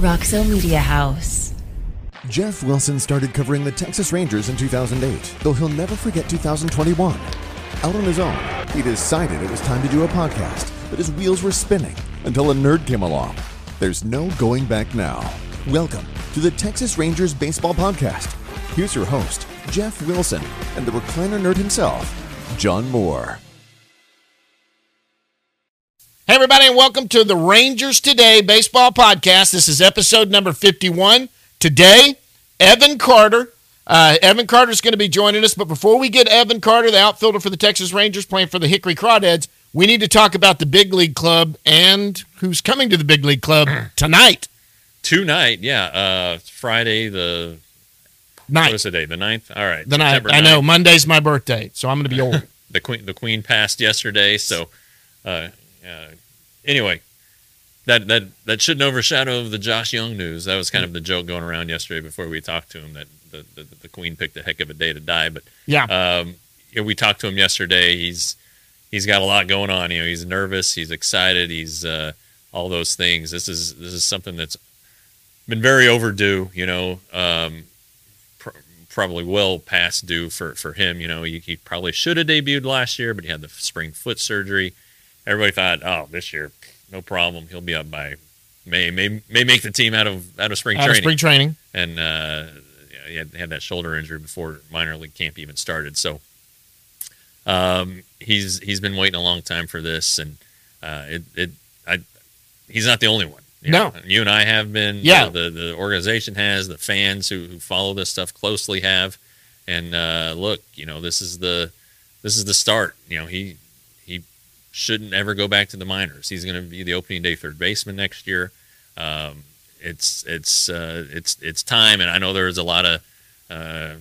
Roxo Media House. Jeff Wilson started covering the Texas Rangers in 2008, though he'll never forget 2021. Out on his own, he decided it was time to do a podcast, but his wheels were spinning until a nerd came along. There's no going back now. Welcome to the Texas Rangers Baseball Podcast. Here's your host, Jeff Wilson, and the recliner nerd himself, John Moore. Hey, everybody, and welcome to the Rangers Today Baseball Podcast. This is episode number 51. Today, Evan Carter. Evan Carter is going to be joining us, but before we get Evan Carter, the outfielder for the Texas Rangers playing for the Hickory Crawdads, we need to talk about the Big League Club and who's coming to the Big League Club tonight. Tonight, yeah. Friday the 9th. What is the day? The 9th? All right. The 9th. I know. Monday's my birthday, so I'm going to be old. The Queen passed yesterday, so anyway, that shouldn't overshadow the Josh Young news. That was kind of the joke going around yesterday before we talked to him that the Queen picked a heck of a day to die. But yeah, we talked to him yesterday. He's got a lot going on. He's nervous. He's excited. He's all those things. This is something that's been very overdue. Probably well past due for him. He probably should have debuted last year, but he had the spring foot surgery. Everybody thought, oh, this year, no problem. He'll be up by May. May make the team out of spring training. Out of spring training. And he had that shoulder injury before minor league camp even started. So he's been waiting a long time for this, and he's not the only one. No. You and I have been. Yeah. The organization has. The fans who follow this stuff closely have. And look, this is the start. He shouldn't ever go back to the minors. He's going to be the opening day third baseman next year. It's time, and I know there's a lot of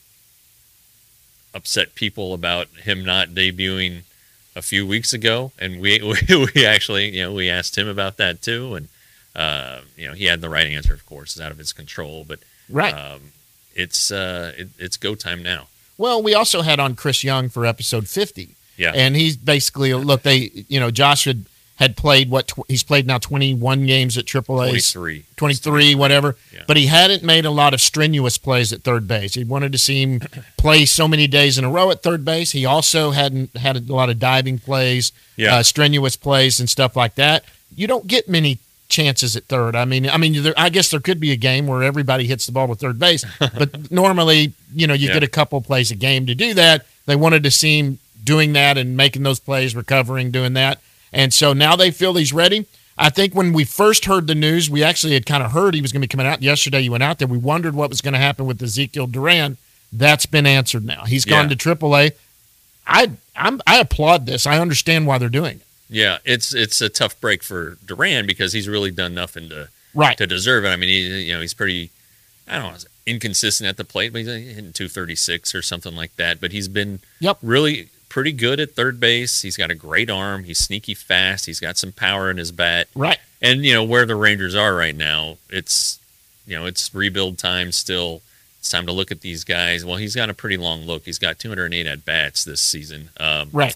upset people about him not debuting a few weeks ago, and we actually we asked him about that too, and he had the right answer. Of course, it's out of his control, but right. It's go time now. Well, we also had on Chris Young for episode 50. Yeah. And he's basically, Josh had played he's played now 21 games at AAA. 23, whatever. Yeah. But he hadn't made a lot of strenuous plays at third base. He wanted to see him play so many days in a row at third base. He also hadn't had a lot of diving plays, strenuous plays and stuff like that. You don't get many chances at third. I guess there could be a game where everybody hits the ball with third base, but normally, you get a couple plays a game to do that. They wanted to see him doing that and making those plays, recovering, doing that. And so now they feel he's ready. I think when we first heard the news, we actually had kind of heard he was going to be coming out. Yesterday you went out there. We wondered what was going to happen with Ezekiel Duran. That's been answered now. He's gone to AAA. I applaud this. I understand why they're doing it. Yeah, it's a tough break for Duran because he's really done nothing to deserve it. I mean, he's pretty, inconsistent at the plate, but he's hitting 236 or something like that. But he's been really pretty good at third base. He's got a great arm. He's sneaky fast. He's got some power in his bat. Right. And where the Rangers are right now, it's rebuild time still. It's time to look at these guys. Well, he's got a pretty long look. He's got 208 at bats this season. Right.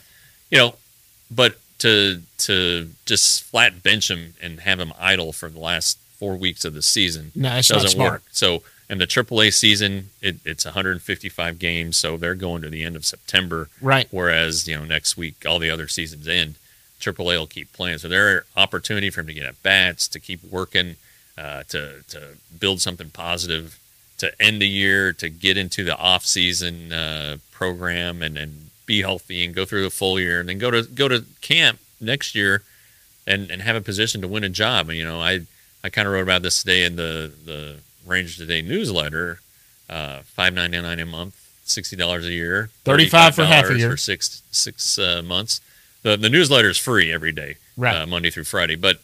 But to just flat bench him and have him idle for the last 4 weeks of the season doesn't work. So. And the AAA season, it's 155 games, so they're going to the end of September. Right. Whereas, next week, all the other seasons end. AAA will keep playing. So there are opportunity for him to get at bats, to keep working, to build something positive, to end the year, to get into the off-season program and be healthy and go through the full year, and then go to camp next year and have a position to win a job. And, I kind of wrote about this today in the Rangers Today newsletter, $5.99 a month, $60 a year, $35 for half a year for six months. The newsletter is free every day, right. Monday through Friday. But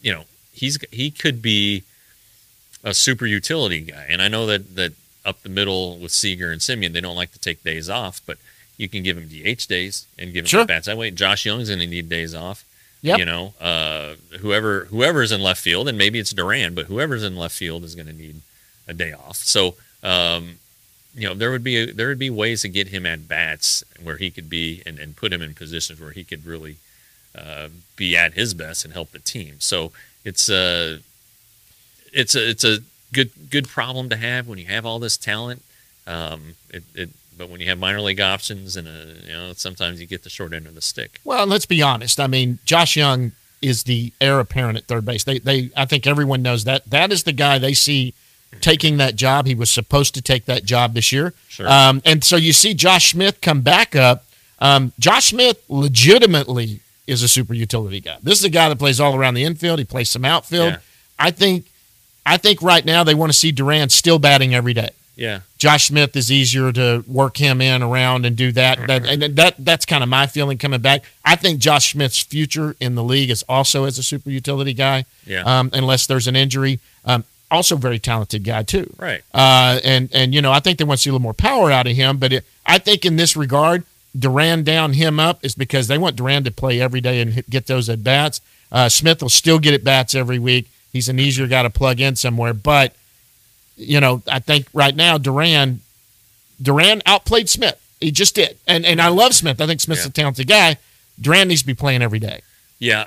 he could be a super utility guy, and I know that up the middle with Seager and Semien, they don't like to take days off, but you can give him DH days and give him bats that way. Josh Young's going to need days off. Yep. Whoever's in left field, and maybe it's Duran, but whoever's in left field is going to need a day off. So, there would be ways to get him at bats where he could be and put him in positions where he could really be at his best and help the team. So it's it's a good problem to have when you have all this talent. But when you have minor league options and sometimes you get the short end of the stick. Well, and let's be honest. I mean, Josh Young is the heir apparent at third base. I think everyone knows that. That is the guy they see taking that job. He was supposed to take that job this year. Sure. And so you see Josh Smith come back up. Josh Smith legitimately is a super utility guy. This is a guy that plays all around the infield. He plays some outfield. Yeah. I think right now they want to see Duran still batting every day. Yeah. Josh Smith is easier to work him in around and do that. That's kind of my feeling coming back. I think Josh Smith's future in the league is also as a super utility guy. Yeah. Unless there's an injury. Also very talented guy too. Right. And I think they want to see a little more power out of him. But I think in this regard, Duran down, him up is because they want Duran to play every day and get those at bats. Smith will still get at bats every week. He's an easier guy to plug in somewhere, but. I think right now Duran outplayed Smith. He just did. And I love Smith. I think Smith's a talented guy. Duran needs to be playing every day. Yeah.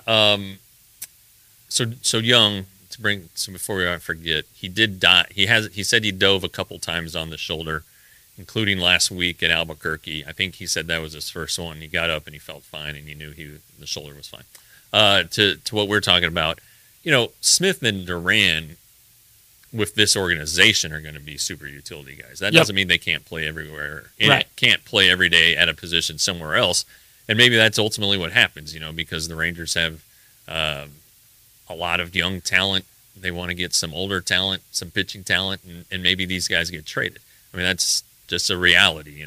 So Young, before I forget, he did die. He said he dove a couple times on the shoulder, including last week at Albuquerque. I think he said that was his first one. He got up and he felt fine and he knew the shoulder was fine. To what we're talking about, Smith and Duran with this organization are going to be super utility guys. That doesn't mean they can't play everywhere. Right. Can't play every day at a position somewhere else. And maybe that's ultimately what happens, because the Rangers have a lot of young talent. They want to get some older talent, some pitching talent, and maybe these guys get traded. I mean, that's just a reality,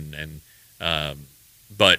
but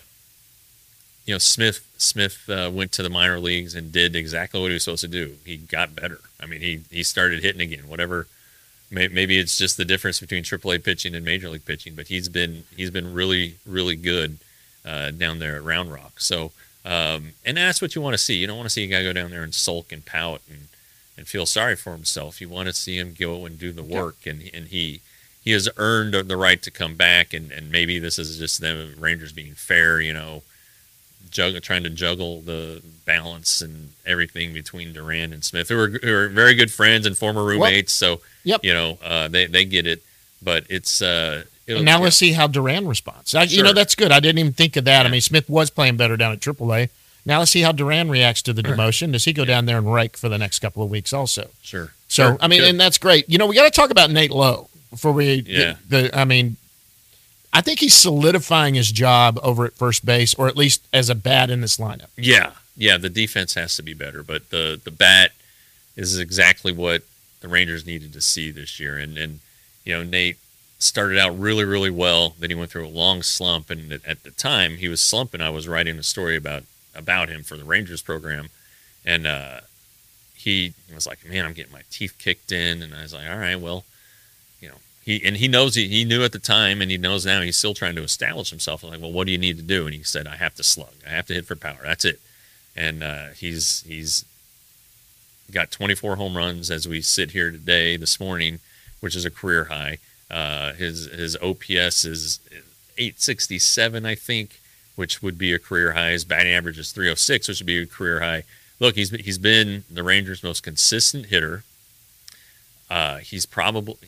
Smith went to the minor leagues and did exactly what he was supposed to do. He got better. I mean, he started hitting again. Whatever, maybe it's just the difference between AAA pitching and Major League pitching. But he's been really, really good down there at Round Rock. So, and that's what you want to see. You don't want to see a guy go down there and sulk and pout and feel sorry for himself. You want to see him go and do the work, and he has earned the right to come back. And maybe this is just the Rangers being fair, trying to juggle the balance and everything between Duran and Smith, who are very good friends and former roommates. Well, so, they get it, but it's, now let's see how Duran responds. That's good. I didn't even think of that. Yeah. I mean, Smith was playing better down at AAA. Now let's see how Duran reacts to the demotion. Does he go down there and rake for the next couple of weeks also? Sure. So, I mean, and that's great. We got to talk about Nate Lowe before we I think he's solidifying his job over at first base, or at least as a bat in this lineup. Yeah. The defense has to be better, but the bat is exactly what the Rangers needed to see this year. And Nate started out really, really well. Then he went through a long slump, and at the time he was slumping, I was writing a story about him for the Rangers program, and he was like, "Man, I'm getting my teeth kicked in," and I was like, "All right, well." He knows he knew at the time, and he knows now. He's still trying to establish himself. I'm like, well, what do you need to do? And he said, I have to slug. I have to hit for power. That's it. And he's got 24 home runs as we sit here this morning, which is a career high. His OPS is 867, I think, which would be a career high. His batting average is 306, which would be a career high. Look, he's been the Rangers' most consistent hitter. He's probably,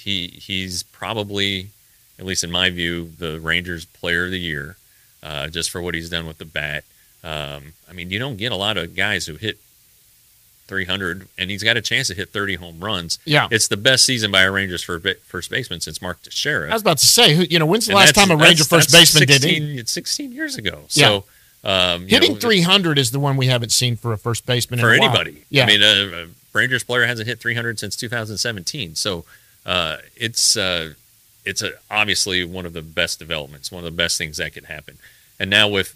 at least in my view, the Rangers Player of the Year, just for what he's done with the bat. I mean, you don't get a lot of guys who hit 300, and he's got a chance to hit 30 home runs. Yeah, it's the best season by a Rangers first baseman since Mark Teixeira. I was about to say, when's the last time a Ranger first baseman did it? It's 16 years ago. Yeah. So hitting 300 is the one we haven't seen for a first baseman for in a anybody. While. Yeah, I mean, Rangers player hasn't hit 300 since 2017. So it's obviously one of the best developments, one of the best things that could happen. And now with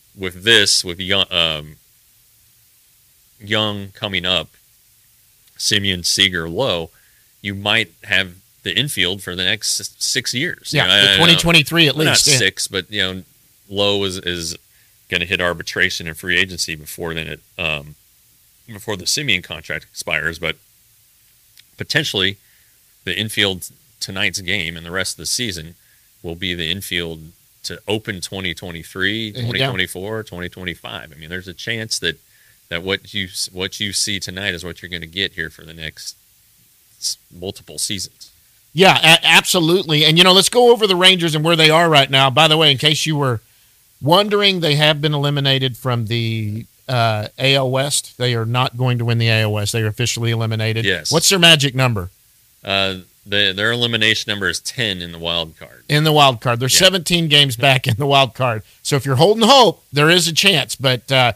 Young coming up, Simeon, Seager, Lowe, you might have the infield for the next 6 years. Yeah, 2023 at least. Not 6, but Lowe is going to hit arbitration and free agency before the Simeon contract expires, but potentially the infield tonight's game and the rest of the season will be the infield to open 2023, 2024, 2025. I mean, there's a chance that what you see tonight is what you're going to get here for the next multiple seasons. Yeah, absolutely. And, let's go over the Rangers and where they are right now. By the way, in case you were wondering, they have been eliminated from the AL West. They are not going to win the AL West. They are officially eliminated. Yes. What's their magic number? Their elimination number is 10 in the wild card. In the wild card. They're 17 games back in the wild card. So if you're holding hope, there is a chance. But they're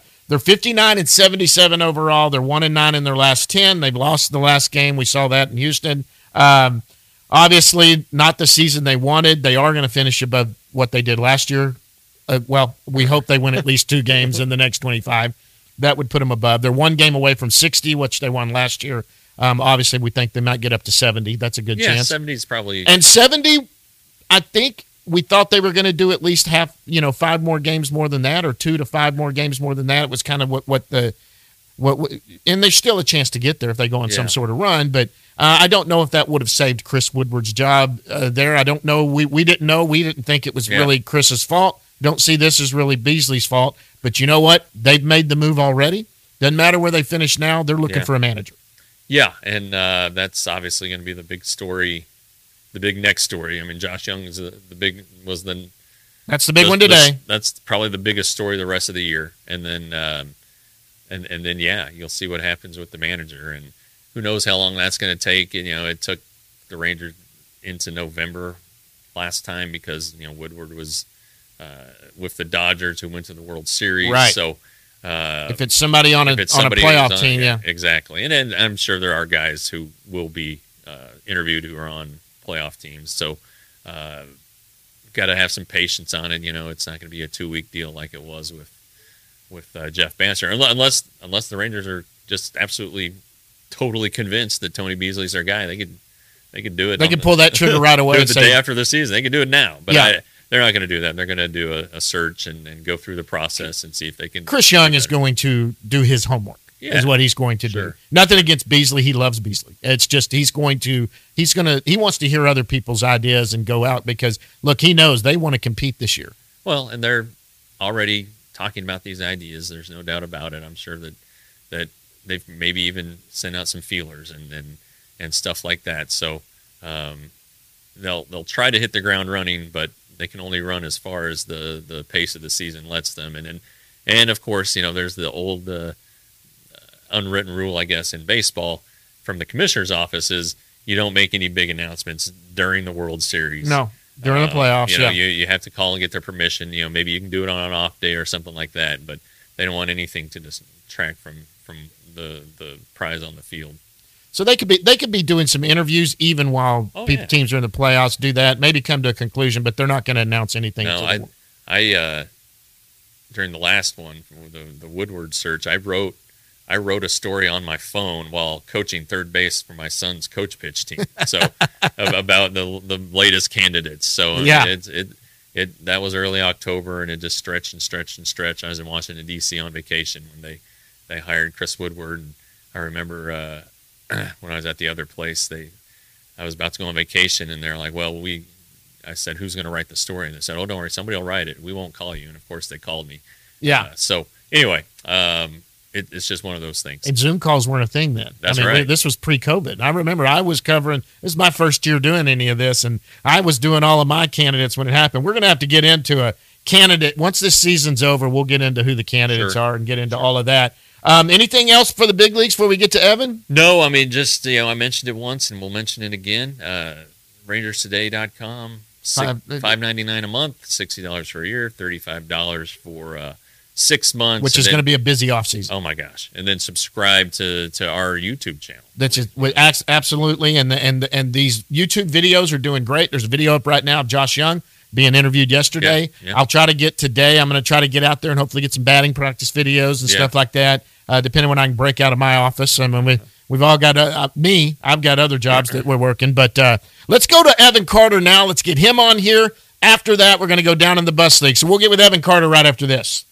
59-77 overall. They're 1-9 in their last 10. They've lost the last game. We saw that in Houston. Obviously, not the season they wanted. They are going to finish above what they did last year. Well, we hope they win at least 2 games in the next 25. That would put them above. They're 1 game away from 60, which they won last year. Obviously, we think they might get up to 70. That's a good chance. Yeah, 70 is probably. And 70, I think we thought they were going to do at least 5 more games more than that, or 2 to 5 more games more than that. It was kind of what and there's still a chance to get there if they go on some sort of run. But I don't know if that would have saved Chris Woodward's job there. I don't know. We didn't know. We didn't think it was really Chris's fault. Don't see this as really Beasley's fault. But you know what? They've made the move already. Doesn't matter where they finish now. They're looking for a manager. Yeah, and that's obviously going to be the big story, the big next story. I mean, Josh Young is that's the big one today. That's probably the biggest story the rest of the year, and then and then you'll see what happens with the manager, and who knows how long that's going to take. And, it took the Rangers into November last time because Woodward was with the Dodgers who went to the World Series, right? So. If it's somebody on a playoff team, exactly. And I'm sure there are guys who will be interviewed who are on playoff teams. So, got to have some patience on it. It's not going to be a 2-week deal like it was with Jeff Bannister, unless the Rangers are just absolutely, totally convinced that Tony Beasley's their guy. They could do it. They could pull that trigger right away. Do it the day after the season. They could do it now, but they're not going to do that. They're going to do a search and go through the process and see if they can. Chris Young is going to do his homework. Is what he's going to do. Nothing against Beasley. He loves Beasley. It's just he wants to hear other people's ideas and go out because look, he knows they want to compete this year. Well, and they're already talking about these ideas. There's no doubt about it. I'm sure that they've maybe even sent out some feelers and stuff like that. So they'll try to hit the ground running, but they can only run as far as the pace of the season lets them. And of course, there's the old unwritten rule, I guess, in baseball from the commissioner's office is you don't make any big announcements during the World Series. No, during the playoffs. You have to call and get their permission. Maybe you can do it on an off day or something like that, but they don't want anything to distract from the prize on the field. So they could be doing some interviews even while teams are in the playoffs. Do that, maybe come to a conclusion, but they're not going to announce anything. No, I during the last one, the Woodward search, I wrote a story on my phone while coaching third base for my son's coach pitch team. So about the latest candidates. So that was early October, and it just stretched and stretched and stretched. I was in Washington D.C. on vacation when they hired Chris Woodward, and I remember. When I was at the other place, I was about to go on vacation, and they're like, well, I said, who's going to write the story? And they said, oh, don't worry, somebody will write it. We won't call you. And, of course, they called me. Yeah. So, anyway, it's just one of those things. And Zoom calls weren't a thing then. That's right. This was pre-COVID. I remember I was covering – this is my first year doing any of this, and I was doing all of my candidates when it happened. We're going to have to get into a candidate – once this season's over, we'll get into who the candidates are and get into all of that. Anything else for the big leagues before we get to Evan? No, I mean, just, I mentioned it once and we'll mention it again. RangersToday.com, $5.99 a month, $60 for a year, $35 for 6 months. Which is going to be a busy offseason. Oh, my gosh. And then subscribe to our YouTube channel. That's just, absolutely. And these YouTube videos are doing great. There's a video up right now of Josh Young being interviewed yesterday. Yeah. I'll try to get today. I'm going to try to get out there and hopefully get some batting practice videos and stuff like that. Depending when I can break out of my office. I mean, we've all got I've got other jobs that we're working. But let's go to Evan Carter now. Let's get him on here. After that, we're going to go down in the bus league. So we'll get with Evan Carter right after this.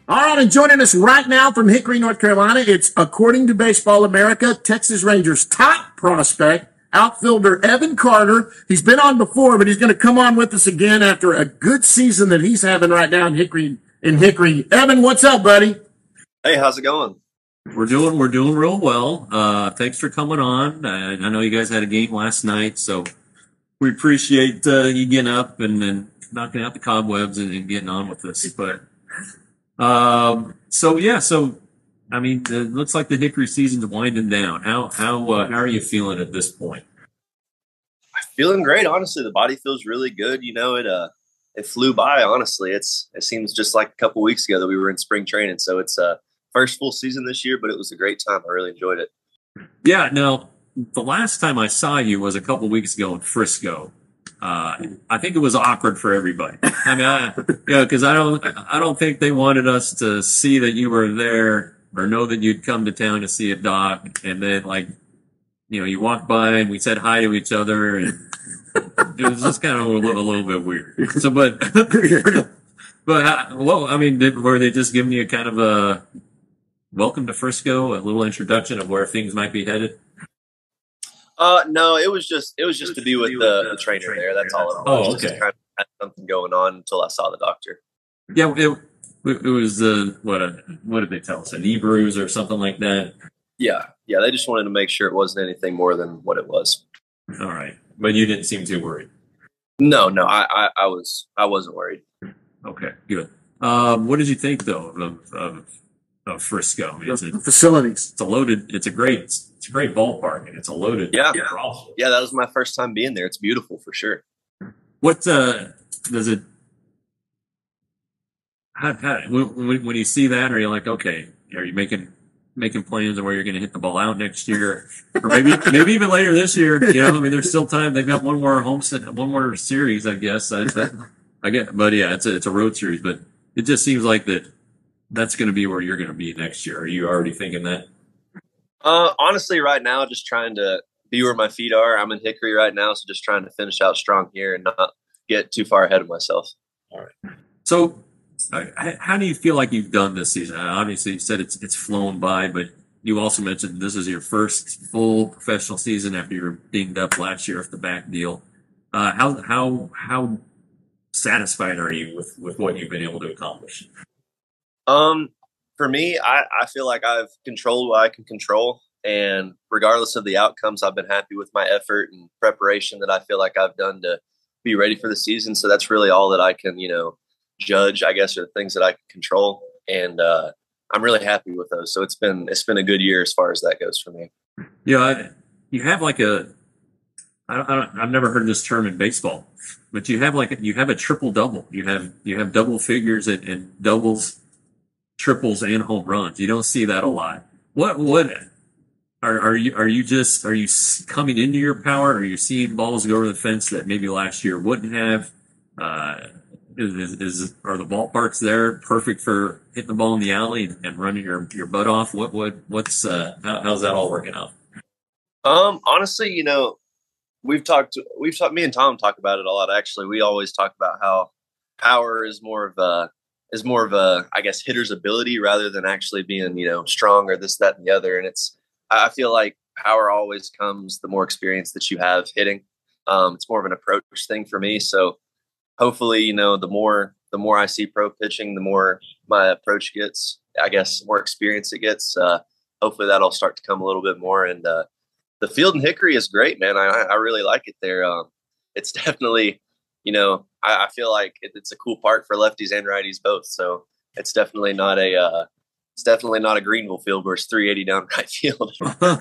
All right, and joining us right now from Hickory, North Carolina, it's, according to Baseball America, Texas Rangers' top prospect, outfielder Evan Carter. He's been on before, but he's going to come on with us again after a good season that he's having right now in Hickory. Evan, what's up, buddy? Hey, how's it going? We're doing real well. Thanks for coming on. I know you guys had a game last night, so we appreciate you getting up and knocking out the cobwebs and getting on with this. But so I mean, it looks like the Hickory season's winding down. How are you feeling at this point? Feeling great, honestly. The body feels really good. You know, it flew by. Honestly, it seems just like a couple weeks ago that we were in spring training. So it's first full season this year, but it was a great time. I really enjoyed it. Yeah. Now, the last time I saw you was a couple weeks ago in Frisco. I think it was awkward for everybody. I mean, because I don't think they wanted us to see that you were there or know that you'd come to town to see a doc, and then you walked by and we said hi to each other, and it was just kind of a little bit weird. So, but I mean, were they just giving you kind of a welcome to Frisco, a little introduction of where things might be headed? No, it was just to be with the trainer there. That's all it was. Oh, okay. Just kind of had something going on until I saw the doctor. Yeah, it was what did they tell us? A knee bruise or something like that? Yeah. They just wanted to make sure it wasn't anything more than what it was. All right, but you didn't seem too worried. No, I wasn't worried. Okay, good. What did you think though of Frisco? I mean, Facilities. It's a great ballpark, and it's a loaded. Yeah, that was my first time being there. It's beautiful for sure. What does it? When you see that, are you like, okay, are you making plans of where you're going to hit the ball out next year, or maybe even later this year? You know, I mean, there's still time. They've got one more series, I guess. I get, but yeah, it's a road series, but it just seems like that's going to be where you're going to be next year. Are you already thinking that? Honestly, right now, just trying to be where my feet are. I'm in Hickory right now, so just trying to finish out strong here and not get too far ahead of myself. All right. So, how do you feel like you've done this season? Obviously, you said it's flown by, but you also mentioned this is your first full professional season after you were dinged up last year with the back deal. How satisfied are you with what you've been able to accomplish? For me, I feel like I've controlled what I can control, and regardless of the outcomes, I've been happy with my effort and preparation that I feel like I've done to be ready for the season. So that's really all that I can, judge, I guess, are the things that I can control. And, I'm really happy with those. So it's been a good year as far as that goes for me. Yeah. You have I've never heard this term in baseball, but you have a triple double. You have double figures and doubles, triples, and home runs. You don't see that a lot. What are you coming into your power? Are you seeing balls go over the fence that maybe last year wouldn't have? Are the ballparks there perfect for hitting the ball in the alley and running your butt off? How's that all working out? Honestly, we've talked, me and Tom talk about it a lot. Actually, we always talk about how power is more of a, I guess, hitter's ability rather than actually being, strong or this, that, and the other. And I feel like power always comes the more experience that you have hitting. It's more of an approach thing for me. So hopefully, the more I see pro pitching, the more my approach gets, I guess, more experience it gets. Hopefully that'll start to come a little bit more. And the field in Hickory is great, man. I really like it there. It's definitely, I feel like it's a cool park for lefties and righties both. So it's definitely not a Greenville field where it's 380 down right field.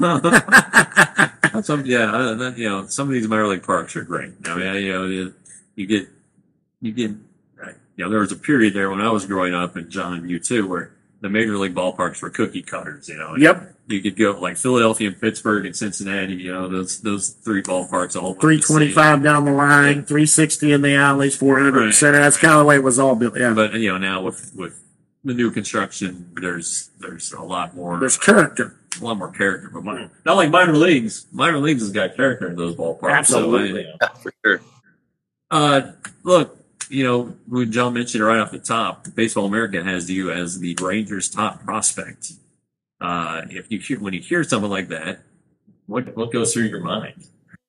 Some of these minor league parks are great. I mean, you get, there was a period there when I was growing up, and John, you too, where the major league ballparks were cookie cutters. Yep. You could go like Philadelphia and Pittsburgh and Cincinnati. Those three ballparks all 325 down the line, 360 in the alleys, 400 center. That's kind of the way it was all built. Yeah. But now with the new construction, there's a lot more. There's character. A lot more character, but not like minor leagues. Minor leagues has got character in those ballparks. Absolutely. For sure. Look, when John mentioned it right off the top, Baseball America has you as the Rangers' top prospect. When you hear something like that, what goes through your mind?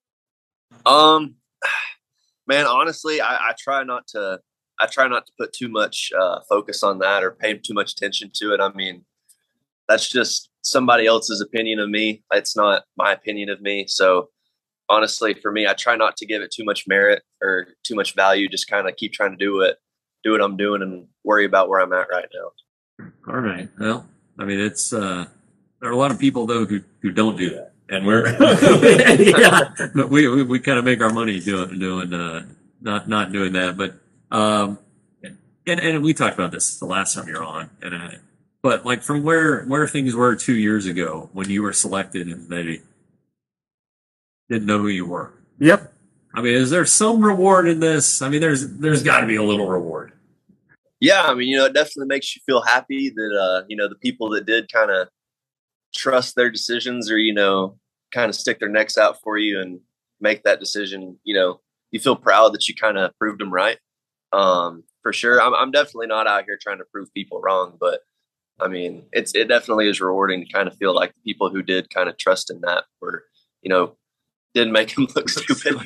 Man, honestly, I try not to put too much focus on that or pay too much attention to it. I mean, that's just somebody else's opinion of me. It's not my opinion of me. So honestly, for me, I try not to give it too much merit or too much value. Just kind of keep trying to do what I'm doing and worry about where I'm at right now. All right. Well, I mean, it's there are a lot of people though who don't do that, and we're but we kind of make our money doing not doing that. But and we talked about this the last time you're on, but like from where things were 2 years ago when you were selected and they didn't know who you were. Yep. I mean, is there some reward in this? I mean, there's got to be a little reward. Yeah, I mean, it definitely makes you feel happy that the people that did kind of trust their decisions or kind of stick their necks out for you and make that decision. You feel proud that you kind of proved them right. For sure, I'm definitely not out here trying to prove people wrong, but I mean, it definitely is rewarding to kind of feel like the people who did kind of trust in that were didn't make him look stupid.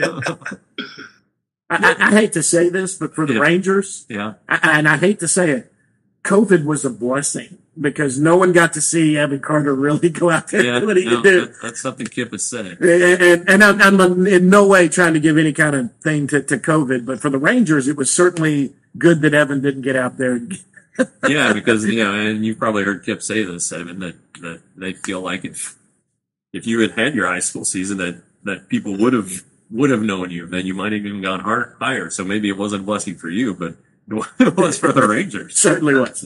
I hate to say this, but for the Rangers, and I hate to say it, COVID was a blessing because no one got to see Evan Carter really go out there and do what he could do. That's something Kip has said. And I'm in no way trying to give any kind of thing to COVID, but for the Rangers, it was certainly good that Evan didn't get out there. Yeah, because and you've probably heard Kip say this, Evan, that they feel like if you had your high school season, that people would have known you, then you might have even gone higher. So maybe it wasn't a blessing for you, but it was for the Rangers. Certainly was.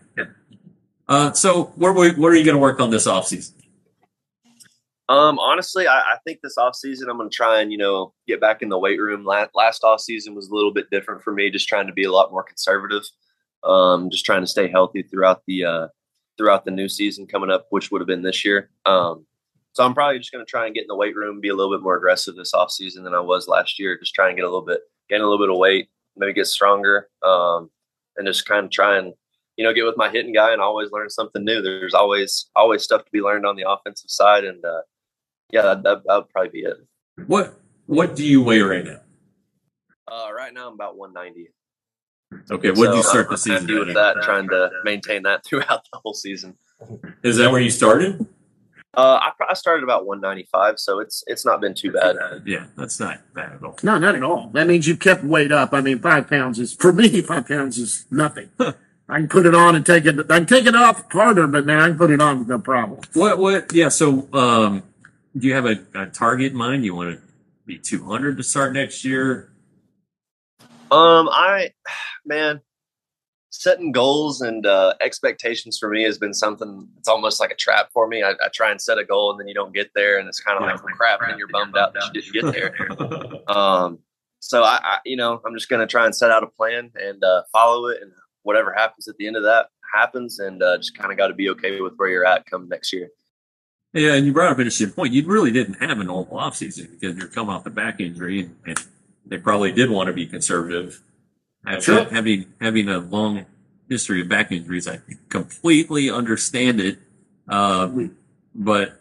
So what are you going to work on this offseason? Honestly, I think this offseason I'm going to try and, get back in the weight room. Last offseason was a little bit different for me, just trying to be a lot more conservative. Just trying to stay healthy throughout the new season coming up, which would have been this year. So I'm probably just going to try and get in the weight room, be a little bit more aggressive this offseason than I was last year. Just try and gain a little bit of weight, maybe get stronger, and just kind of try and, get with my hitting guy and always learn something new. There's always stuff to be learned on the offensive side. And that would probably be it. What do you weigh right now? Right now I'm about 190. Okay. What did you start the season? I'm happy with that, trying to maintain that throughout the whole season. Is that where you started? I started about 195, so it's not been too bad. Yeah, that's not bad at all. No, not at all. That means you've kept weight up. I mean, 5 pounds is, for me, 5 pounds is nothing. I can put it on and take it. I can take it off harder, but now I can put it on with no problem. What? Yeah. So, do you have a target in mind? You want to be 200 to start next year? Setting goals and expectations for me has been something. It's almost like a trap for me. I try and set a goal and then you don't get there, and it's kind of like crap, and you're bummed out that you didn't get there. So I'm just going to try and set out a plan and follow it, and whatever happens at the end of that happens, and just kind of got to be okay with where you're at come next year. Yeah, and you brought up an interesting point. You really didn't have a normal offseason because you're coming off the back injury, and they probably did want to be conservative. Sure. Having a long history of back injuries, I completely understand it. But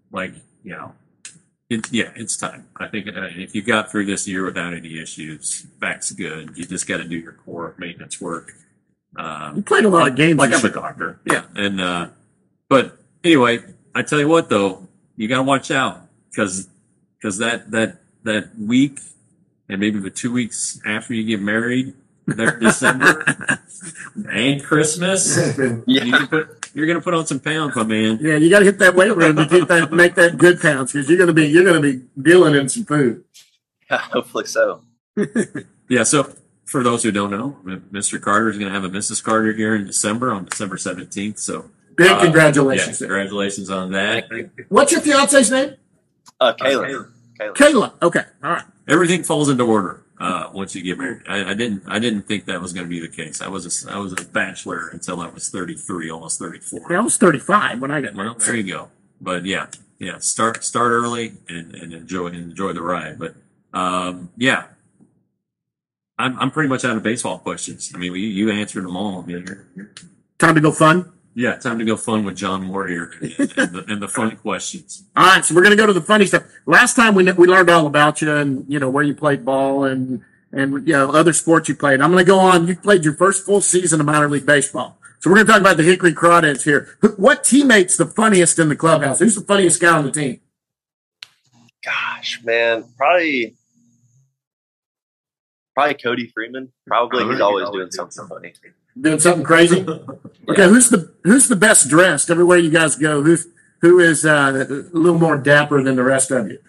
it's time. I think if you got through this year without any issues, back's good. You just got to do your core maintenance work. You played a lot of games. Like I'm a doctor. Yeah. And, but anyway, I tell you what though, you got to watch out because that week and maybe the 2 weeks after you get married, there December and Christmas, you're going to put on some pounds, my man. Yeah, you got to hit that weight room to make that good pounds because you're going to be dealing in some food. Yeah, hopefully so. Yeah. So for those who don't know, Mr. Carter is going to have a Mrs. Carter here in December on December 17th. So big congratulations! Yeah, congratulations on that. What's your fiance's name? Kayla. Kayla. Okay. All right. Everything falls into order once you get married. I didn't think that was going to be the case. I was a bachelor until I was 33, almost 34. Yeah, I was 35 when I got married. Well, there you go. But yeah. Start early and enjoy the ride. But I'm pretty much out of baseball questions. I mean, you answered them all. I mean, Time to go fun. yeah, time to go fun with John Moore here and the fun questions. All right, so we're going to go to the funny stuff. Last time we learned all about you and, where you played ball and other sports you played. I'm going to go on. You played your first full season of minor league baseball. So we're going to talk about the Hickory Crawdads here. What teammate's the funniest in the clubhouse? Who's the funniest guy on the team? Gosh, man, probably Cody Freeman. Probably he's always doing something funny. Doing something crazy? Okay, who's the best dressed everywhere you guys go? Who is a little more dapper than the rest of you?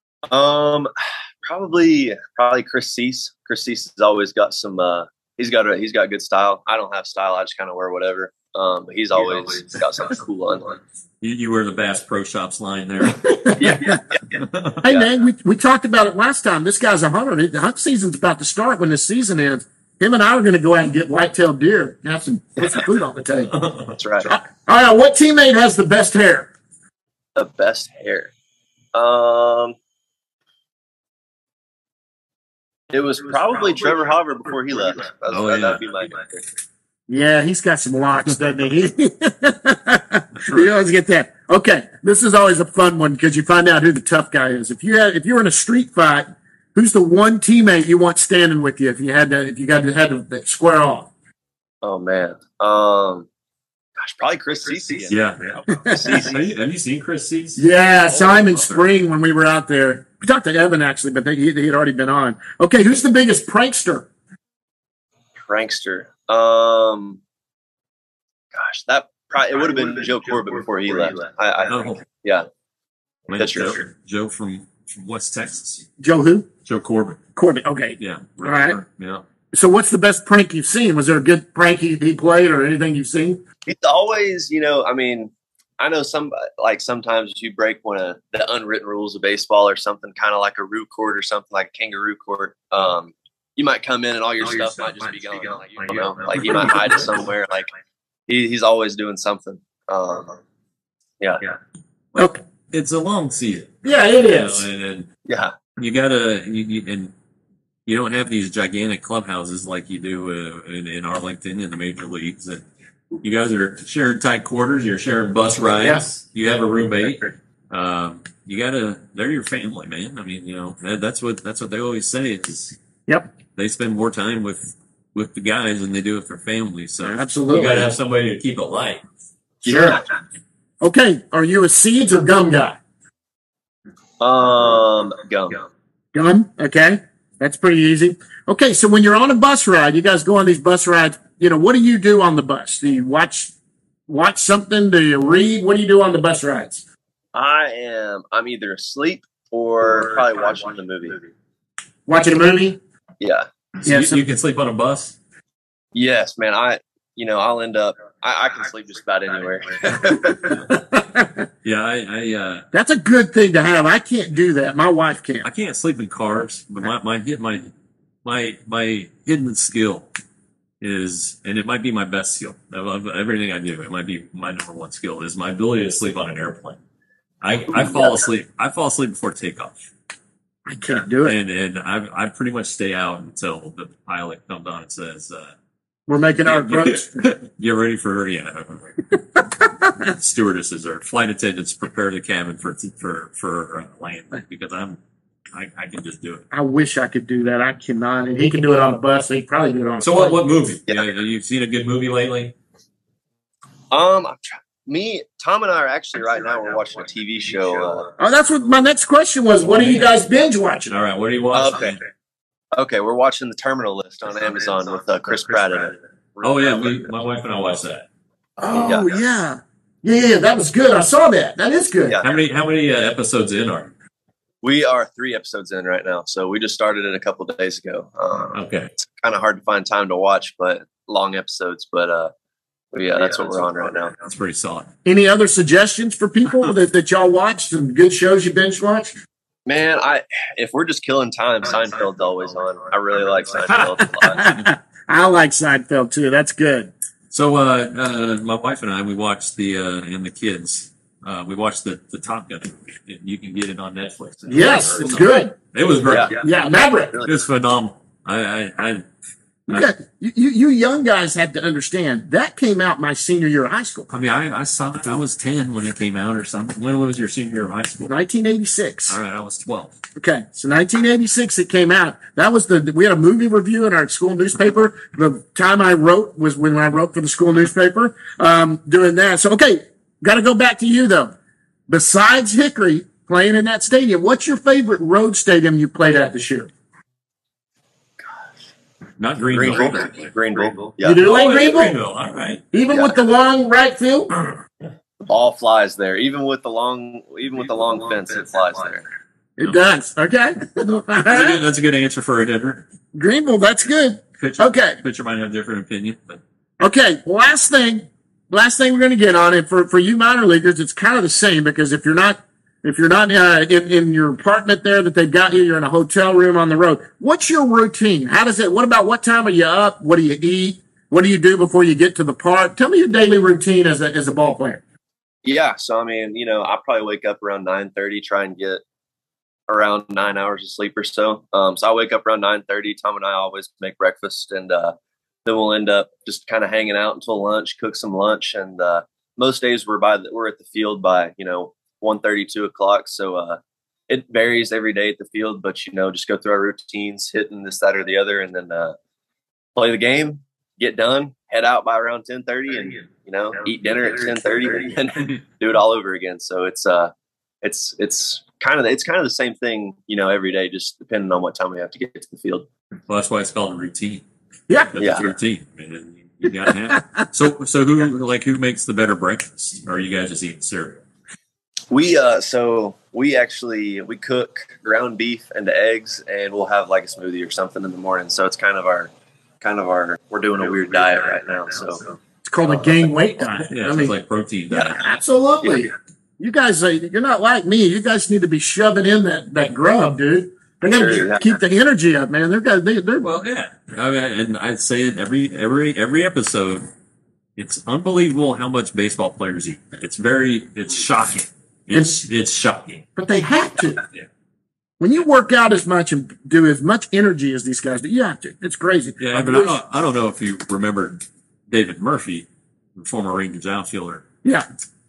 Probably Chris Cease. Chris Cease has always got some. He's got good style. I don't have style. I just kind of wear whatever. But he's always got something cool on. You wear the Bass Pro Shops line there. Yeah. Hey, man, we talked about it last time. This guy's a hunter. The hunt season's about to start when this season ends. Him and I are going to go out and get white-tailed deer and put some food on the table. That's right. All right, what teammate has the best hair? The best hair. It was probably Trevor Hauver before he left. That'd be my pick. Yeah, he's got some locks, doesn't he? You always get that. Okay, this is always a fun one because you find out who the tough guy is. If you're in a street fight, who's the one teammate you want standing with you if you had to square off? Oh man, gosh, probably Chris Cease again. Yeah. Have you seen Chris Cease? Yeah, saw him in spring when we were out there. We talked to Evan actually, but he had already been on. Okay, who's the biggest prankster? Prankster. Gosh, it would have been Joe Corbett before he left. I think. Yeah. That's Joe from West Texas. Joe who? Joe Corbett. Corbett. Okay. Yeah. All right. Yeah. So what's the best prank you've seen? Was there a good prank he played or anything you've seen? It's always, I know sometimes you break one of the unwritten rules of baseball or something, kind of like a root cord or something like a kangaroo court. You might come in and all your stuff might just be gone. Like you might hide it somewhere. Like he's always doing something. Yeah. Okay. It's a long season. Yeah, it is. And Yeah. you gotta, and you don't have these gigantic clubhouses like you do in Arlington in the major leagues. And you guys are sharing tight quarters. You're sharing bus rides. Yes. You have a roommate. They're your family, man. I mean, that's what they always say. Is Yep. they spend more time with the guys than they do with their family. So Absolutely. you got to have somebody to keep it light. Sure. Okay. Are you a seeds or gum guy? Gum. Gum. Okay. That's pretty easy. Okay. So when you're on a bus ride, you guys go on these bus rides. What do you do on the bus? Do you watch something? Do you read? What do you do on the bus rides? I'm either asleep or probably watching the movie. Watching a movie? Yeah. So you can sleep on a bus? Yes, man. I'll end up. I can sleep just about anywhere. Yeah, That's a good thing to have. I can't do that. My wife I can't. can't sleep in cars, but my hidden skill is, and it might be my best skill of everything I do. It might be my number one skill is my ability to sleep on an airplane. I fall asleep. I fall asleep before takeoff. I can't do it. And I pretty much stay out until the pilot comes on and says, We're making our approach. get ready for, stewardesses or flight attendants prepare the cabin for landing because I can just do it. I wish I could do that. I cannot. And he can do it on a bus. He can probably do it on a So plane. what movie? Yeah. Have you seen a good movie lately? Tom and I are actually right now. We're watching a TV show. Oh, that's what my next question was. What are you guys binge watching? All right, what do you watch? Okay, we're watching The Terminal List on Amazon with Chris Pratt in it. Oh yeah, my wife and I watched that. Oh yeah. Yeah, that was good. I saw that. That is good. Yeah. How many episodes in are? We are 3 episodes in right now, so we just started it a couple of days ago. Okay. It's kind of hard to find time to watch, but long episodes. But yeah, that's what we're on right now. That's pretty solid. Any other suggestions for people that y'all watched? Some good shows you binge watched? Man, if we're just killing time, Seinfeld's always on. I really like Seinfeld a lot. I like Seinfeld too. That's good. So my wife and I, we watched and the kids. We watched the Top Gun. You can get it on Netflix. Yes, it's good. It was great. Yeah. Yeah, Maverick. It was phenomenal. You young guys have to understand that came out my senior year of high school. I mean, I saw it. I was 10 when it came out or something. When was your senior year of high school? 1986. All right, I was 12. Okay, so 1986 it came out. That was we had a movie review in our school newspaper. The time I wrote was when I wrote for the school newspaper, doing that. So, okay, got to go back to you though. Besides Hickory playing in that stadium, what's your favorite road stadium you played at this year? Not Greenville. Greenville. Yeah. You do like Greenville? Greenville, all right. Even with the long right field? All flies there. Even with the long fence, it flies there. It does. Okay. That's a good answer for a dinner. Greenville, that's good. Pitcher might have a different opinion. But. Okay, last thing we're going to get on it for you minor leaguers, it's kind of the same because if you're not in your apartment there that they've got you, you're in a hotel room on the road. What's your routine? What time are you up? What do you eat? What do you do before you get to the park? Tell me your daily routine as a ball player. Yeah. So, I mean, I probably wake up around 9:30, try and get around 9 hours of sleep or so. So I wake up around 9:30. Tom and I always make breakfast, and then we'll end up just kind of hanging out until lunch, cook some lunch. And most days we're at the field by, 1:30, 2 o'clock. So it varies every day at the field, but, just go through our routines, hitting this, that, or the other, and then play the game, get done, head out by around 10:30 and, eat dinner at 10:30 and then do it all over again. So it's kind of the same thing, every day, just depending on what time we have to get to the field. Well, that's why it's called a routine. Yeah. That's a routine. I mean, you got to have. So who makes the better breakfast? Or are you guys just eating cereal? We cook ground beef and eggs, and we'll have like a smoothie or something in the morning. So it's kind of our we're doing a weird diet right now. So it's called a gain weight diet. Yeah, it's like protein diet. Yeah, absolutely. Yeah. You guys, you're not like me. You guys need to be shoving in that grub, dude. They got to keep the energy up, man. They're well, yeah. I mean, and I'd say it every episode. It's unbelievable how much baseball players eat. It's shocking. It's shocking. But they have to. Yeah. When you work out as much and do as much energy as these guys do, you have to. It's crazy. Yeah, but I don't know if you remember David Murphy, the former Rangers outfielder. Yeah.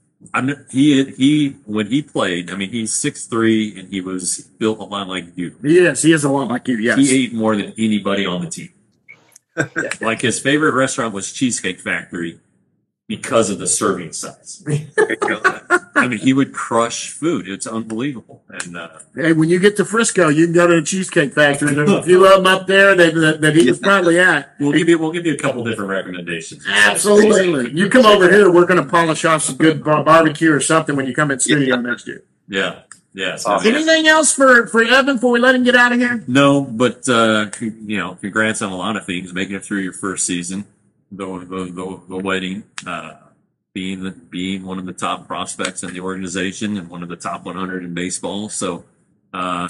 He when he played, I mean, he's 6'3" and he was built a lot like you. Yes, he is a lot like you, yes. He ate more than anybody on the team. Like his favorite restaurant was Cheesecake Factory because of the serving size. I mean, he would crush food. It's unbelievable. And hey, when you get to Frisco, you can go to the Cheesecake Factory. There's a few of them up there that he was probably at. We'll give you a couple different recommendations. Absolutely. You come over here, we're going to polish off some good barbecue or something when you come in studio next year. Yeah. Yeah. Anything else for Evan before we let him get out of here? No, but congrats on a lot of things. Making it through your first season, the wedding, being one of the top prospects in the organization and one of the top 100 in baseball. So, I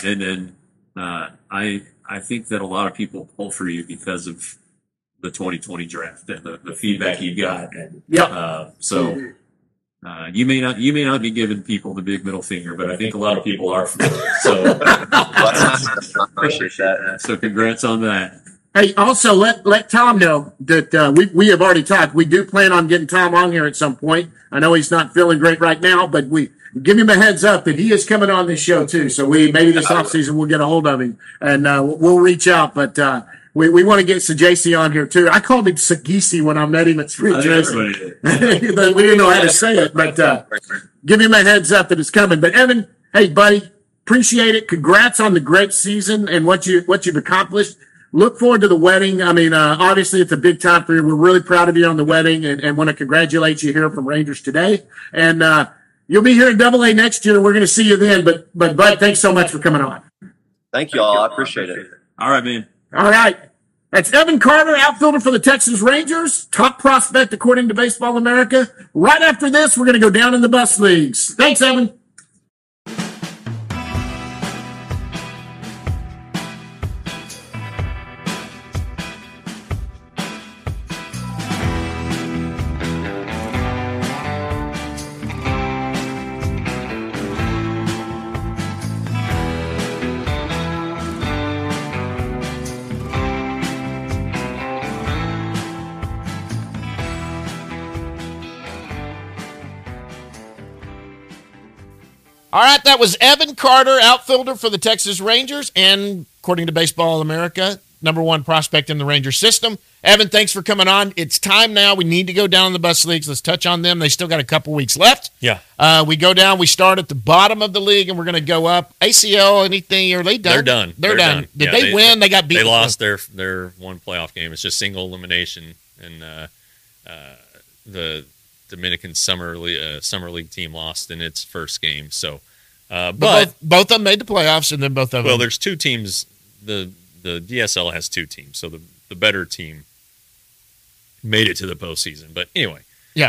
think that a lot of people pull for you because of the 2020 draft and the feedback you got. Yeah. You may not be giving people the big middle finger, but I think a lot of people are. So appreciate that. So congrats on that. Hey, also let Tom know that we have already talked. We do plan on getting Tom on here at some point. I know he's not feeling great right now, but we give him a heads up that he is coming on this show too. So maybe this offseason we'll get a hold of him and we'll reach out. But we want to get Sajasi on here too. I called him Sagisi when I met him at Spring Tracing. We didn't know how to say it, but give him a heads up that it's coming. But Evan, hey buddy, appreciate it. Congrats on the great season and what you've accomplished. Look forward to the wedding. I mean, obviously it's a big time for you. We're really proud of you on the wedding and want to congratulate you here from Rangers today. And you'll be here in AA next year. We're going to see you then. But Bud, thanks so much for coming on. Thank you all. I appreciate it. All right, man. All right. That's Evan Carter, outfielder for the Texas Rangers, top prospect according to Baseball America. Right after this, we're going to go down in the bus leagues. Thanks, Evan. All right, that was Evan Carter, outfielder for the Texas Rangers, and according to Baseball America, #1 prospect in the Ranger system. Evan, thanks for coming on. It's time now. We need to go down the bus leagues. Let's touch on them. They still got a couple weeks left. Yeah. We go down. We start at the bottom of the league, and we're going to go up. ACL, anything? Are they done? They're done. They're done. Did they win? They got beat. They lost their one playoff game. It's just single elimination, and the Dominican Summer League team lost in its first game. So, but both of them made the playoffs, and then both of them. Well, there's two teams. The DSL has two teams, so the better team made it to the postseason. But anyway, yeah,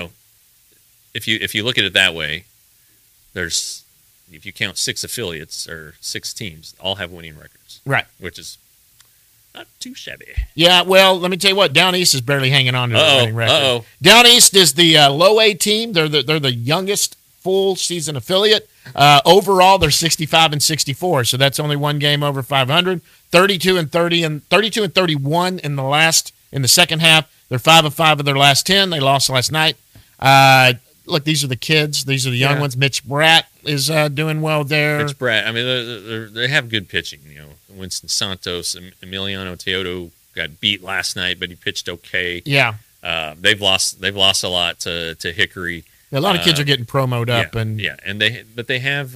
if you look at it that way, if you count 6 affiliates or 6 teams, all have winning records, right? Which is not too shabby. Yeah, well, let me tell you what. Down East is barely hanging on to the winning record. Uh-oh. Down East is the low A team. They're the youngest full season affiliate. Overall, they're 65-64, so that's only one game over 500. 32-30 and 32-31 in the second half. They're 5-5 of their last 10. They lost last night. Look, these are the kids. These are the young ones. Mitch Bratt is doing well there. Mitch Bratt. I mean, they have good pitching. Winston Santos, Emiliano Teodo got beat last night, but he pitched okay. Yeah. They've lost a lot to Hickory. A lot of kids are getting promoted up, and they have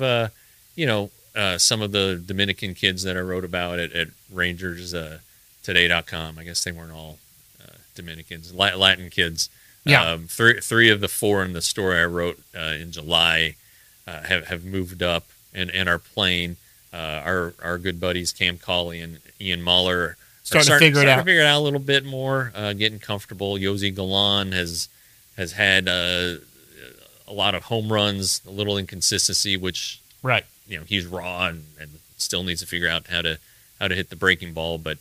some of the Dominican kids that I wrote about at Rangers Today.com. I guess they weren't all Dominicans, Latin kids. Yeah. 3 of the 4 in the story I wrote in July have moved up and are playing. Our good buddies Cam Cauley and Ian Mahler starting to figure it out a little bit more, getting comfortable. Yosi Galan has had a lot of home runs, a little inconsistency, which right. He's raw and still needs to figure out how to hit the breaking ball, but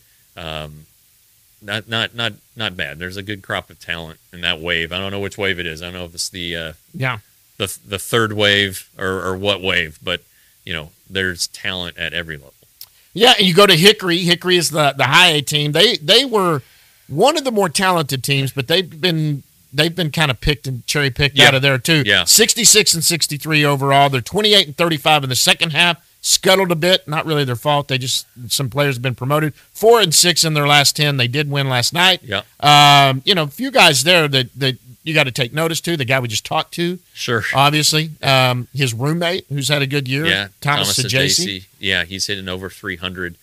not bad. There's a good crop of talent in that wave. I don't know which wave it is. I don't know if it's the third wave or what wave, but there's talent at every level. Yeah, and you go to Hickory. Hickory is the high A team. They were one of the more talented teams, but they've been kind of picked and cherry picked out of there too. Yeah. 66-63 overall. They're 28-35 in the second half. Scuttled a bit, not really their fault. Some players have been promoted. 4-6 in their last 10. They did win last night. Yeah. A few guys there that you got to take notice to. The guy we just talked to. Sure. Obviously. His roommate, who's had a good year. Yeah. Thomas Sajaci. Yeah, he's hitting over 300.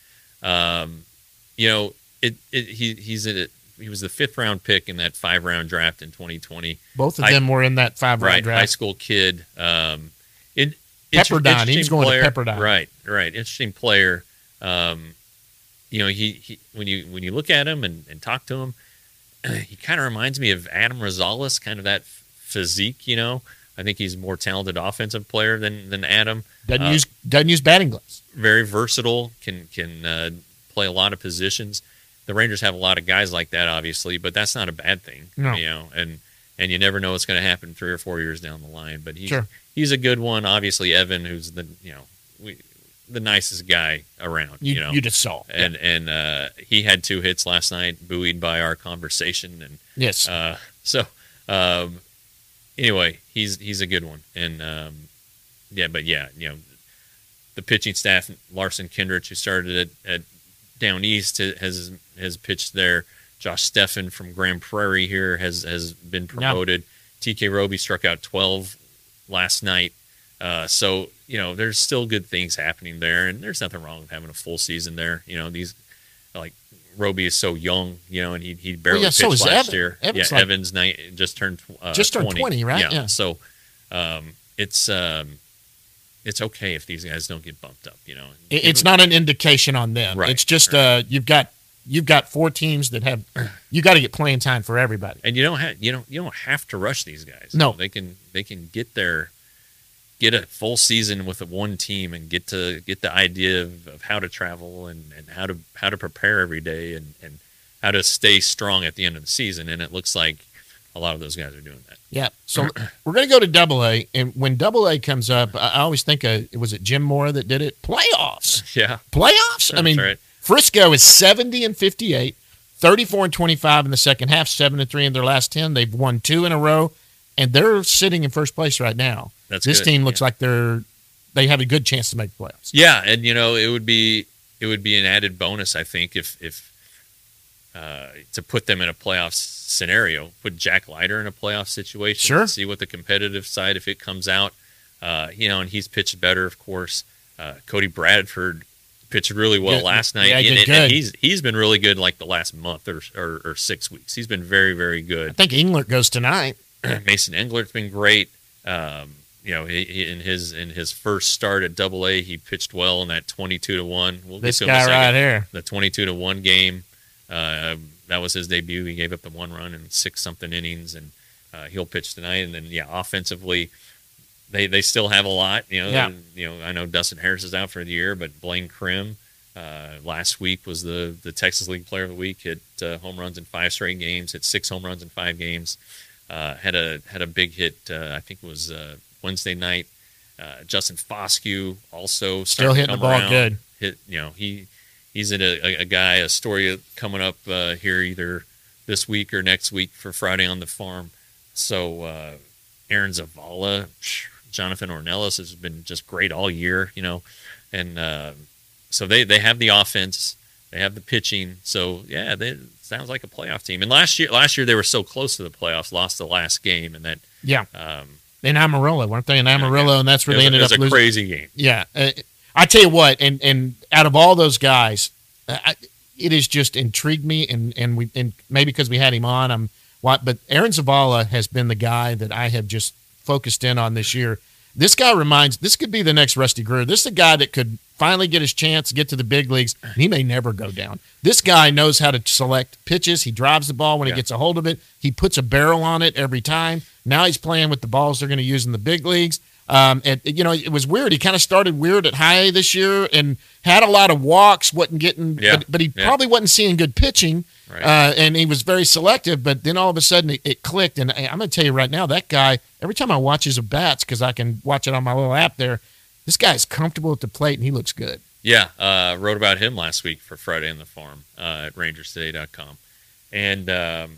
He was the 5th round pick in that 5-round draft in 2020. Both of them were in that 5-round draft. High school kid. Pepperdine. He was going player. to Pepperdine. Right. Interesting player. He when you look at him and talk to him, he kind of reminds me of Adam Rosales, kind of that physique. I think he's a more talented offensive player than Adam. Doesn't use batting gloves. Very versatile. Can play a lot of positions. The Rangers have a lot of guys like that, obviously, but that's not a bad thing. No. And you never know what's going to happen 3 or 4 years down the line. But he's a good one. Obviously, Evan, who's the nicest guy around. You just saw. And he had 2 hits last night, buoyed by our conversation. And yes. Anyway, he's a good one. And the pitching staff, Larson Kindrich, who started at Down East, has pitched there. Josh Steffen from Grand Prairie here has been promoted. Yeah. TK Roby struck out 12 last night. So there's still good things happening there, and there's nothing wrong with having a full season there. These Roby is so young, and he barely pitched last year. Evans just turned 20, right? Yeah. So it's okay if these guys don't get bumped up. It's not an indication on them. Right. It's just you've got 4 teams that have you got to get playing time for everybody. And you don't have to rush these guys. No, they can get a full season with one team and get the idea of how to travel and how to prepare every day and how to stay strong at the end of the season. And it looks like a lot of those guys are doing that. Yeah. So we're going to go to Double-A, and when Double-A comes up, I always think was it Jim Mora that did it? Playoffs. Yeah. Playoffs. I mean, right. Frisco is 70-58, 34-25 in the second half, 7-3 in their last 10. They've won 2 in a row, and they're sitting in first place right now. This team looks like they're they have a good chance to make the playoffs. Yeah, and it would be an added bonus, I think, if to put them in a playoff scenario, put Jack Leiter in a playoff situation, sure. See what the competitive side, if it comes out, and he's pitched better, of course. Cody Bradford pitched really well last night. Yeah, and he's been really good like the last month or 6 weeks. He's been very, very good. I think Englert goes tonight. Mason Englert's been great. He in his first start at AA, he pitched well in that 22-1. This guy right here, the 22-1 game. That was his debut. He gave up the 1 run in 6-something innings, and he'll pitch tonight. And then, offensively, they still have a lot. I know Dustin Harris is out for the year, but Blaine Krim last week was the Texas League Player of the Week. Hit home runs in 5 straight games. Hit 6 home runs in 5 games. Had a big hit. I think it was Wednesday night. Justin Foscue also still hitting the ball around. He's a guy, a story coming up here either this week or next week for Friday on the Farm. So Aaron Zavala, Jonathan Ornelas has been just great all year, and so they have the offense, they have the pitching. So it sounds like a playoff team. And last year they were so close to the playoffs, lost the last game, and that in Amarillo, weren't they in Amarillo? And that's where they ended up losing. It was a crazy game. Yeah. I tell you what, and out of all those guys, it has just intrigued me, and maybe because we had him on, but Aaron Zavala has been the guy that I have just focused in on this year. This guy this could be the next Rusty Greer. This is a guy that could finally get his chance to get to the big leagues, and he may never go down. This guy knows how to select pitches. He drives the ball when he gets a hold of it. He puts a barrel on it every time. Now he's playing with the balls they're going to use in the big leagues. It was weird. He kind of started weird at high A this year and had a lot of walks, wasn't getting, but he probably wasn't seeing good pitching. Right. And he was very selective, but then all of a sudden it clicked. And I'm going to tell you right now, that guy, every time I watch his bats, because I can watch it on my little app there, this guy's comfortable at the plate and he looks good. Yeah. Wrote about him last week for Friday on the Farm at rangerstoday.com. And,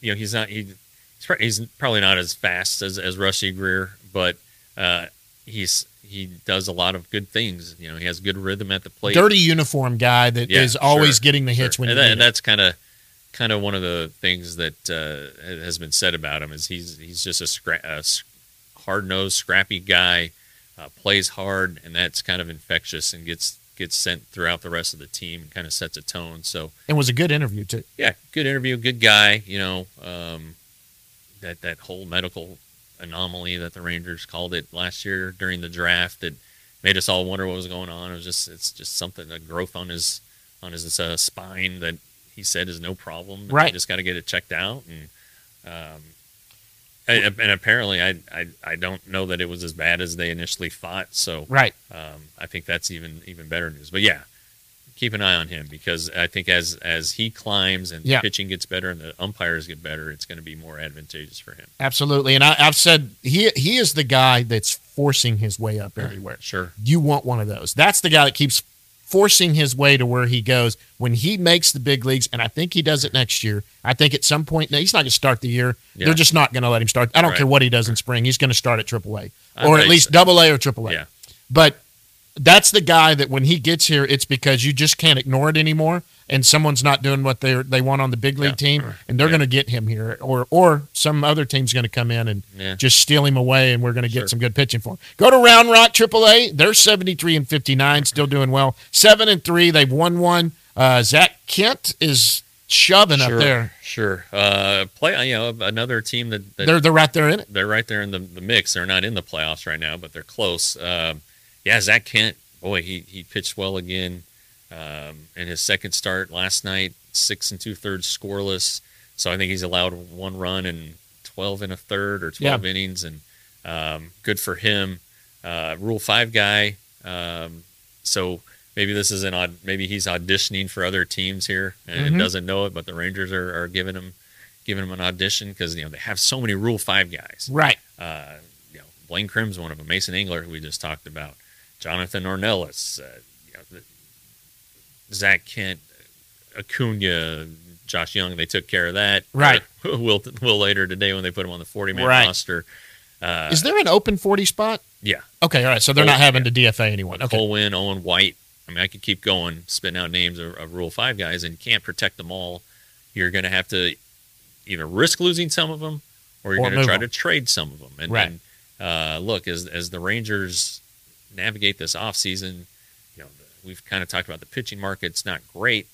he's probably not as fast as Rusty Greer, but he does a lot of good things. He has good rhythm at the plate. Dirty uniform guy that is always getting the hits when you need and that's kind of one of the things that has been said about him is he's just a hard-nosed, scrappy guy, plays hard, and that's kind of infectious and gets sent throughout the rest of the team and kind of sets a tone. So it was a good interview too. Yeah, good interview, good guy. That whole medical anomaly that the Rangers called it last year during the draft that made us all wonder what was going on. It's just something, a growth on his spine that he said is no problem. Right. You just got to get it checked out. And apparently I don't know that it was as bad as they initially thought. So right. I think that's even better news. But yeah, keep an eye on him because I think as he climbs and the pitching gets better and the umpires get better, it's going to be more advantageous for him. Absolutely. And I've said he is the guy that's forcing his way up everywhere. Sure. You want one of those. That's the guy that keeps forcing his way to where he goes when he makes the big leagues, and I think he does it next year. I think at some point, he's not going to start the year. Yeah. They're just not going to let him start. I don't care what he does in spring. He's going to start at AAA or at least AA or AAA. Yeah. But that's the guy that when he gets here, it's because you just can't ignore it anymore, and someone's not doing what they want on the big league team, and they're going to get him here, or some other team's going to come in and just steal him away, and we're going to get some good pitching for him. Go to Round Rock AAA. They're 73-59, still doing well. 7-3. They've won one. Zach Kent is shoving up there. Sure. Another team that they're right there in it. They're right there in the mix. They're not in the playoffs right now, but they're close. Zach Kent, boy, he pitched well again in his second start last night, 6 2/3 scoreless. So I think he's allowed 1 run in 12 1/3 or 12 innings, and good for him. Rule 5 guy. So maybe this is maybe he's auditioning for other teams here and doesn't know it, but the Rangers are giving him an audition because they have so many Rule 5 guys. Right. Blaine Krim's one of them. Mason Engler, who we just talked about. Jonathan Ornelas, Zach Kent, Acuna, Josh Young. They took care of that. Right. Will later today when they put him on the 40-man roster. Is there an open 40 spot? Yeah. Okay, all right. So they're not having to DFA anyone. Okay. Cole Winn, Owen White. I mean, I could keep going, spitting out names of Rule 5 guys, and you can't protect them all. You're going to have to either risk losing some of them, or you're going to try to trade some of them. And, right. And look, as the Rangers navigate this offseason, you know, we've kind of talked about the pitching market's not great.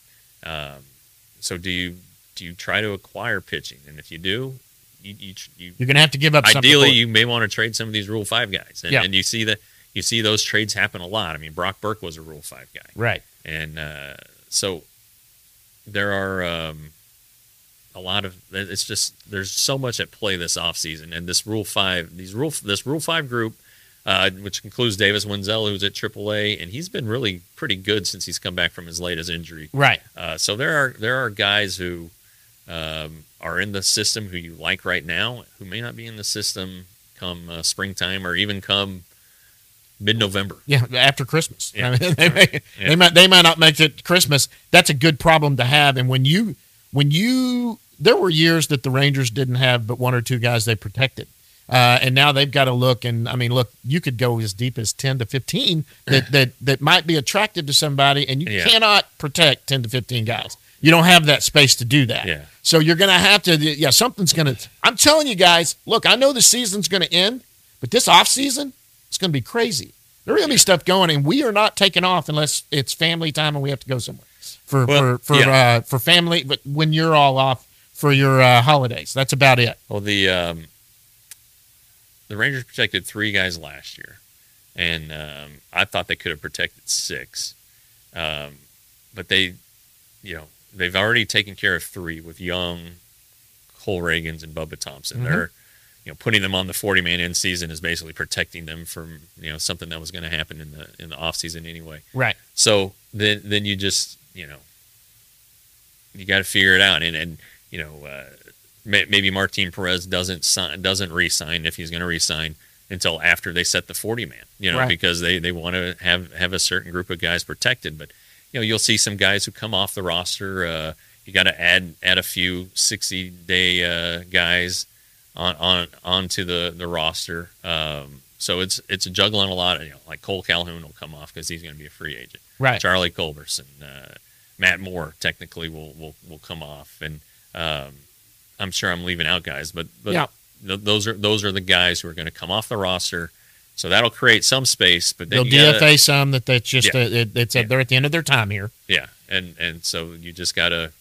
So do you try to acquire pitching? And if you do, you're going to have to give up something. Ideally, you may want to trade some of these Rule 5 guys. And, yeah. And you see those trades happen a lot. I mean, Brock Burke was a Rule 5 guy. Right. And so there are a lot of – it's just – there's so much at play this offseason. And this Rule 5 – this Rule 5 group, which includes Davis Wenzel, who's at AAA, and he's been really pretty good since he's come back from his latest injury. Right. So there are guys who are in the system who you like right now who may not be in the system come springtime or even come mid-November. Yeah, after Christmas. Yeah. I mean, they might not make it Christmas. That's a good problem to have. And when you there were years that the Rangers didn't have but one or two guys they protected. And now they've got to look, and I mean, look, you could go as deep as 10 to 15 that might be attractive to somebody, and you cannot protect 10 to 15 guys. You don't have that space to do that. Yeah. So you're going to have to, something's going to, I'm telling you guys, look, I know the season's going to end, but this offseason, it's going to be crazy. There's going to be stuff going, and we are not taking off unless it's family time and we have to go somewhere for family, but when you're all off for your holidays. That's about it. Well, the Rangers protected 3 guys last year, and I thought they could have protected 6. But they, they've already taken care of 3 with Young, Cole Reagans, and Bubba Thompson. Mm-hmm. They're, putting them on the 40-man end season is basically protecting them from, something that was going to happen in the offseason anyway. Right. So then you just, you got to figure it out. And maybe Martin Perez doesn't re-sign if he's going to re-sign until after they set the 40-man, right. because they want to have a certain group of guys protected. But, you'll see some guys who come off the roster. You got to add a few 60-day guys onto the roster. So it's a juggle on a lot. Like Cole Calhoun will come off because he's going to be a free agent. Right. Charlie Culberson, Matt Moore technically will come off, and I'm sure I'm leaving out guys, but yeah. Those are the guys who are going to come off the roster. So that'll create some space, but then they'll DFA some that's just they're at the end of their time here. Yeah, and so you just gotta,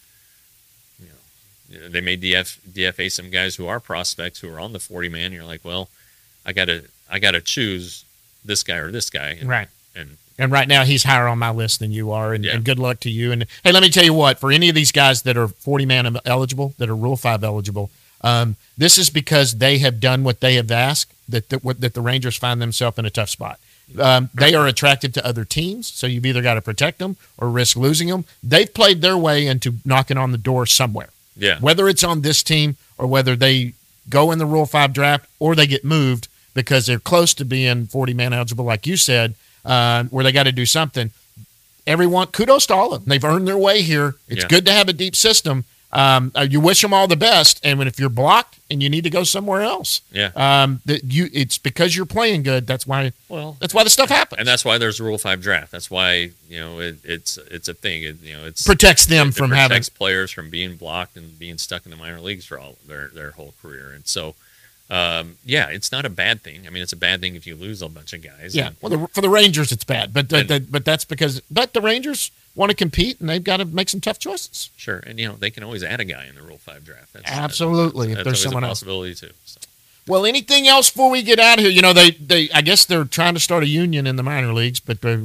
they may DFA some guys who are prospects who are on the 40-man. You're like, well, I gotta choose this guy or this guy, right? And right now he's higher on my list than you are, and good luck to you. And hey, let me tell you what, for any of these guys that are 40-man eligible, that are Rule 5 eligible, this is because they have done what they have asked, that the Rangers find themselves in a tough spot. They are attractive to other teams, so you've either got to protect them or risk losing them. They've played their way into knocking on the door somewhere. Yeah. Whether it's on this team or whether they go in the Rule 5 draft or they get moved because they're close to being 40-man eligible, like you said, where they got to do something. Everyone, kudos to all of them. They've earned their way here. It's good to have a deep system. You wish them all the best, and if you're blocked and you need to go somewhere else, it's because you're playing good. That's why the stuff happens, and that's why there's a Rule 5 draft. That's why it's a thing. It protects them from protects players from being blocked and being stuck in the minor leagues for all their whole career. And so, it's not a bad thing. I mean, it's a bad thing if you lose a bunch of guys. Yeah, for the Rangers, it's bad, but that's because the Rangers want to compete, and they've got to make some tough choices. Sure, and they can always add a guy in the Rule 5 draft. Absolutely, if there's someone else. Possibility too. So. Well, anything else before we get out of here? They I guess they're trying to start a union in the minor leagues, but I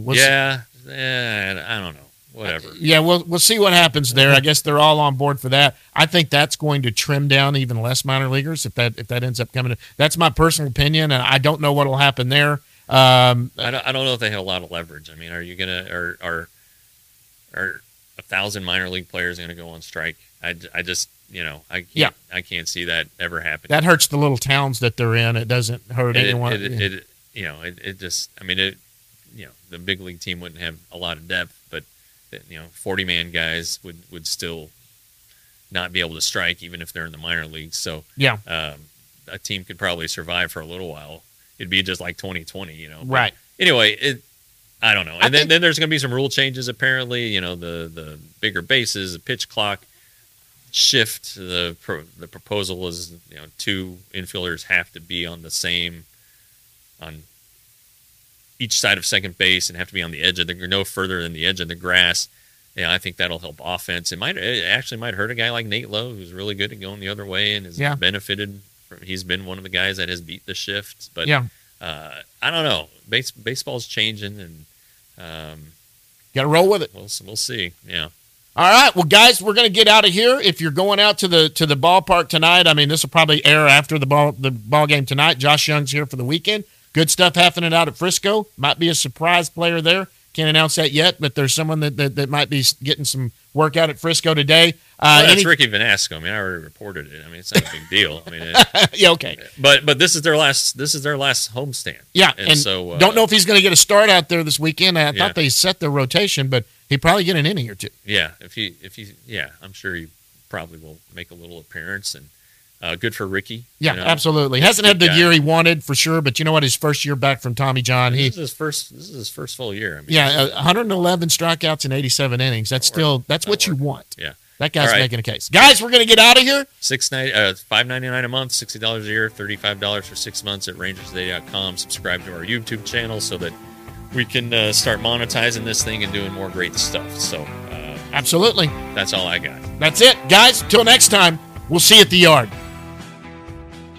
don't know. Whatever. We'll see what happens there. I guess they're all on board for that. I think that's going to trim down even less minor leaguers if that ends up coming. That's my personal opinion, and I don't know what will happen there. I don't know if they have a lot of leverage. I mean, are you gonna are 1,000 minor league players going to go on strike? I just I can't see that ever happening. That hurts the little towns that they're in. It doesn't hurt anyone. It just, I mean, the big league team wouldn't have a lot of depth, but 40-man guys would still not be able to strike even if they're in the minor leagues. So a team could probably survive for a little while it'd be just like 2020, you know. Right. But anyway, I don't know. And then there's going to be some rule changes apparently. You know, the bigger bases, the pitch clock shift. The proposal is, you know, 2 infielders have to be on each side of second base and have to be on the edge of no further than the edge of the grass. Yeah, I think that'll help offense. It actually might hurt a guy like Nate Lowe, who's really good at going the other way and has benefited from. He's been one of the guys that has beat the shift. But I don't know. Baseball's changing, and got to roll with it. We'll see. Yeah. All right, well, guys, we're going to get out of here. If you're going out to the ballpark tonight, I mean, this will probably air after the ball game tonight. Josh Young's here for the weekend. Good stuff happening out at Frisco. Might be a surprise player there. Can't announce that yet, but there's someone that might be getting some work out at Frisco today. That's Ricky Vanasco. I mean, I already reported it. I mean, it's not a big deal. I mean, yeah, okay. But this is their last homestand. Yeah, and so don't know if he's going to get a start out there this weekend. I thought they set their rotation, but he probably get an inning or two. Yeah, if he I'm sure he probably will make a little appearance, and good for Ricky. Yeah, you know? Absolutely. Hasn't had the year he wanted for sure, but you know what? His first year back from Tommy John, this is his first full year. I mean, 111 strikeouts in 87 innings. That's what you want. Yeah, that guy's making a case. Guys, we're going to get out of here. $5.99 a month, $60 a year, $35 for 6 months at rangerstoday.com. Subscribe to our YouTube channel so that we can start monetizing this thing and doing more great stuff. So, absolutely, that's all I got. That's it, guys. Till next time, we'll see you at the yard.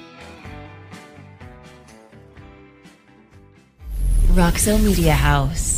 Roxo Media House.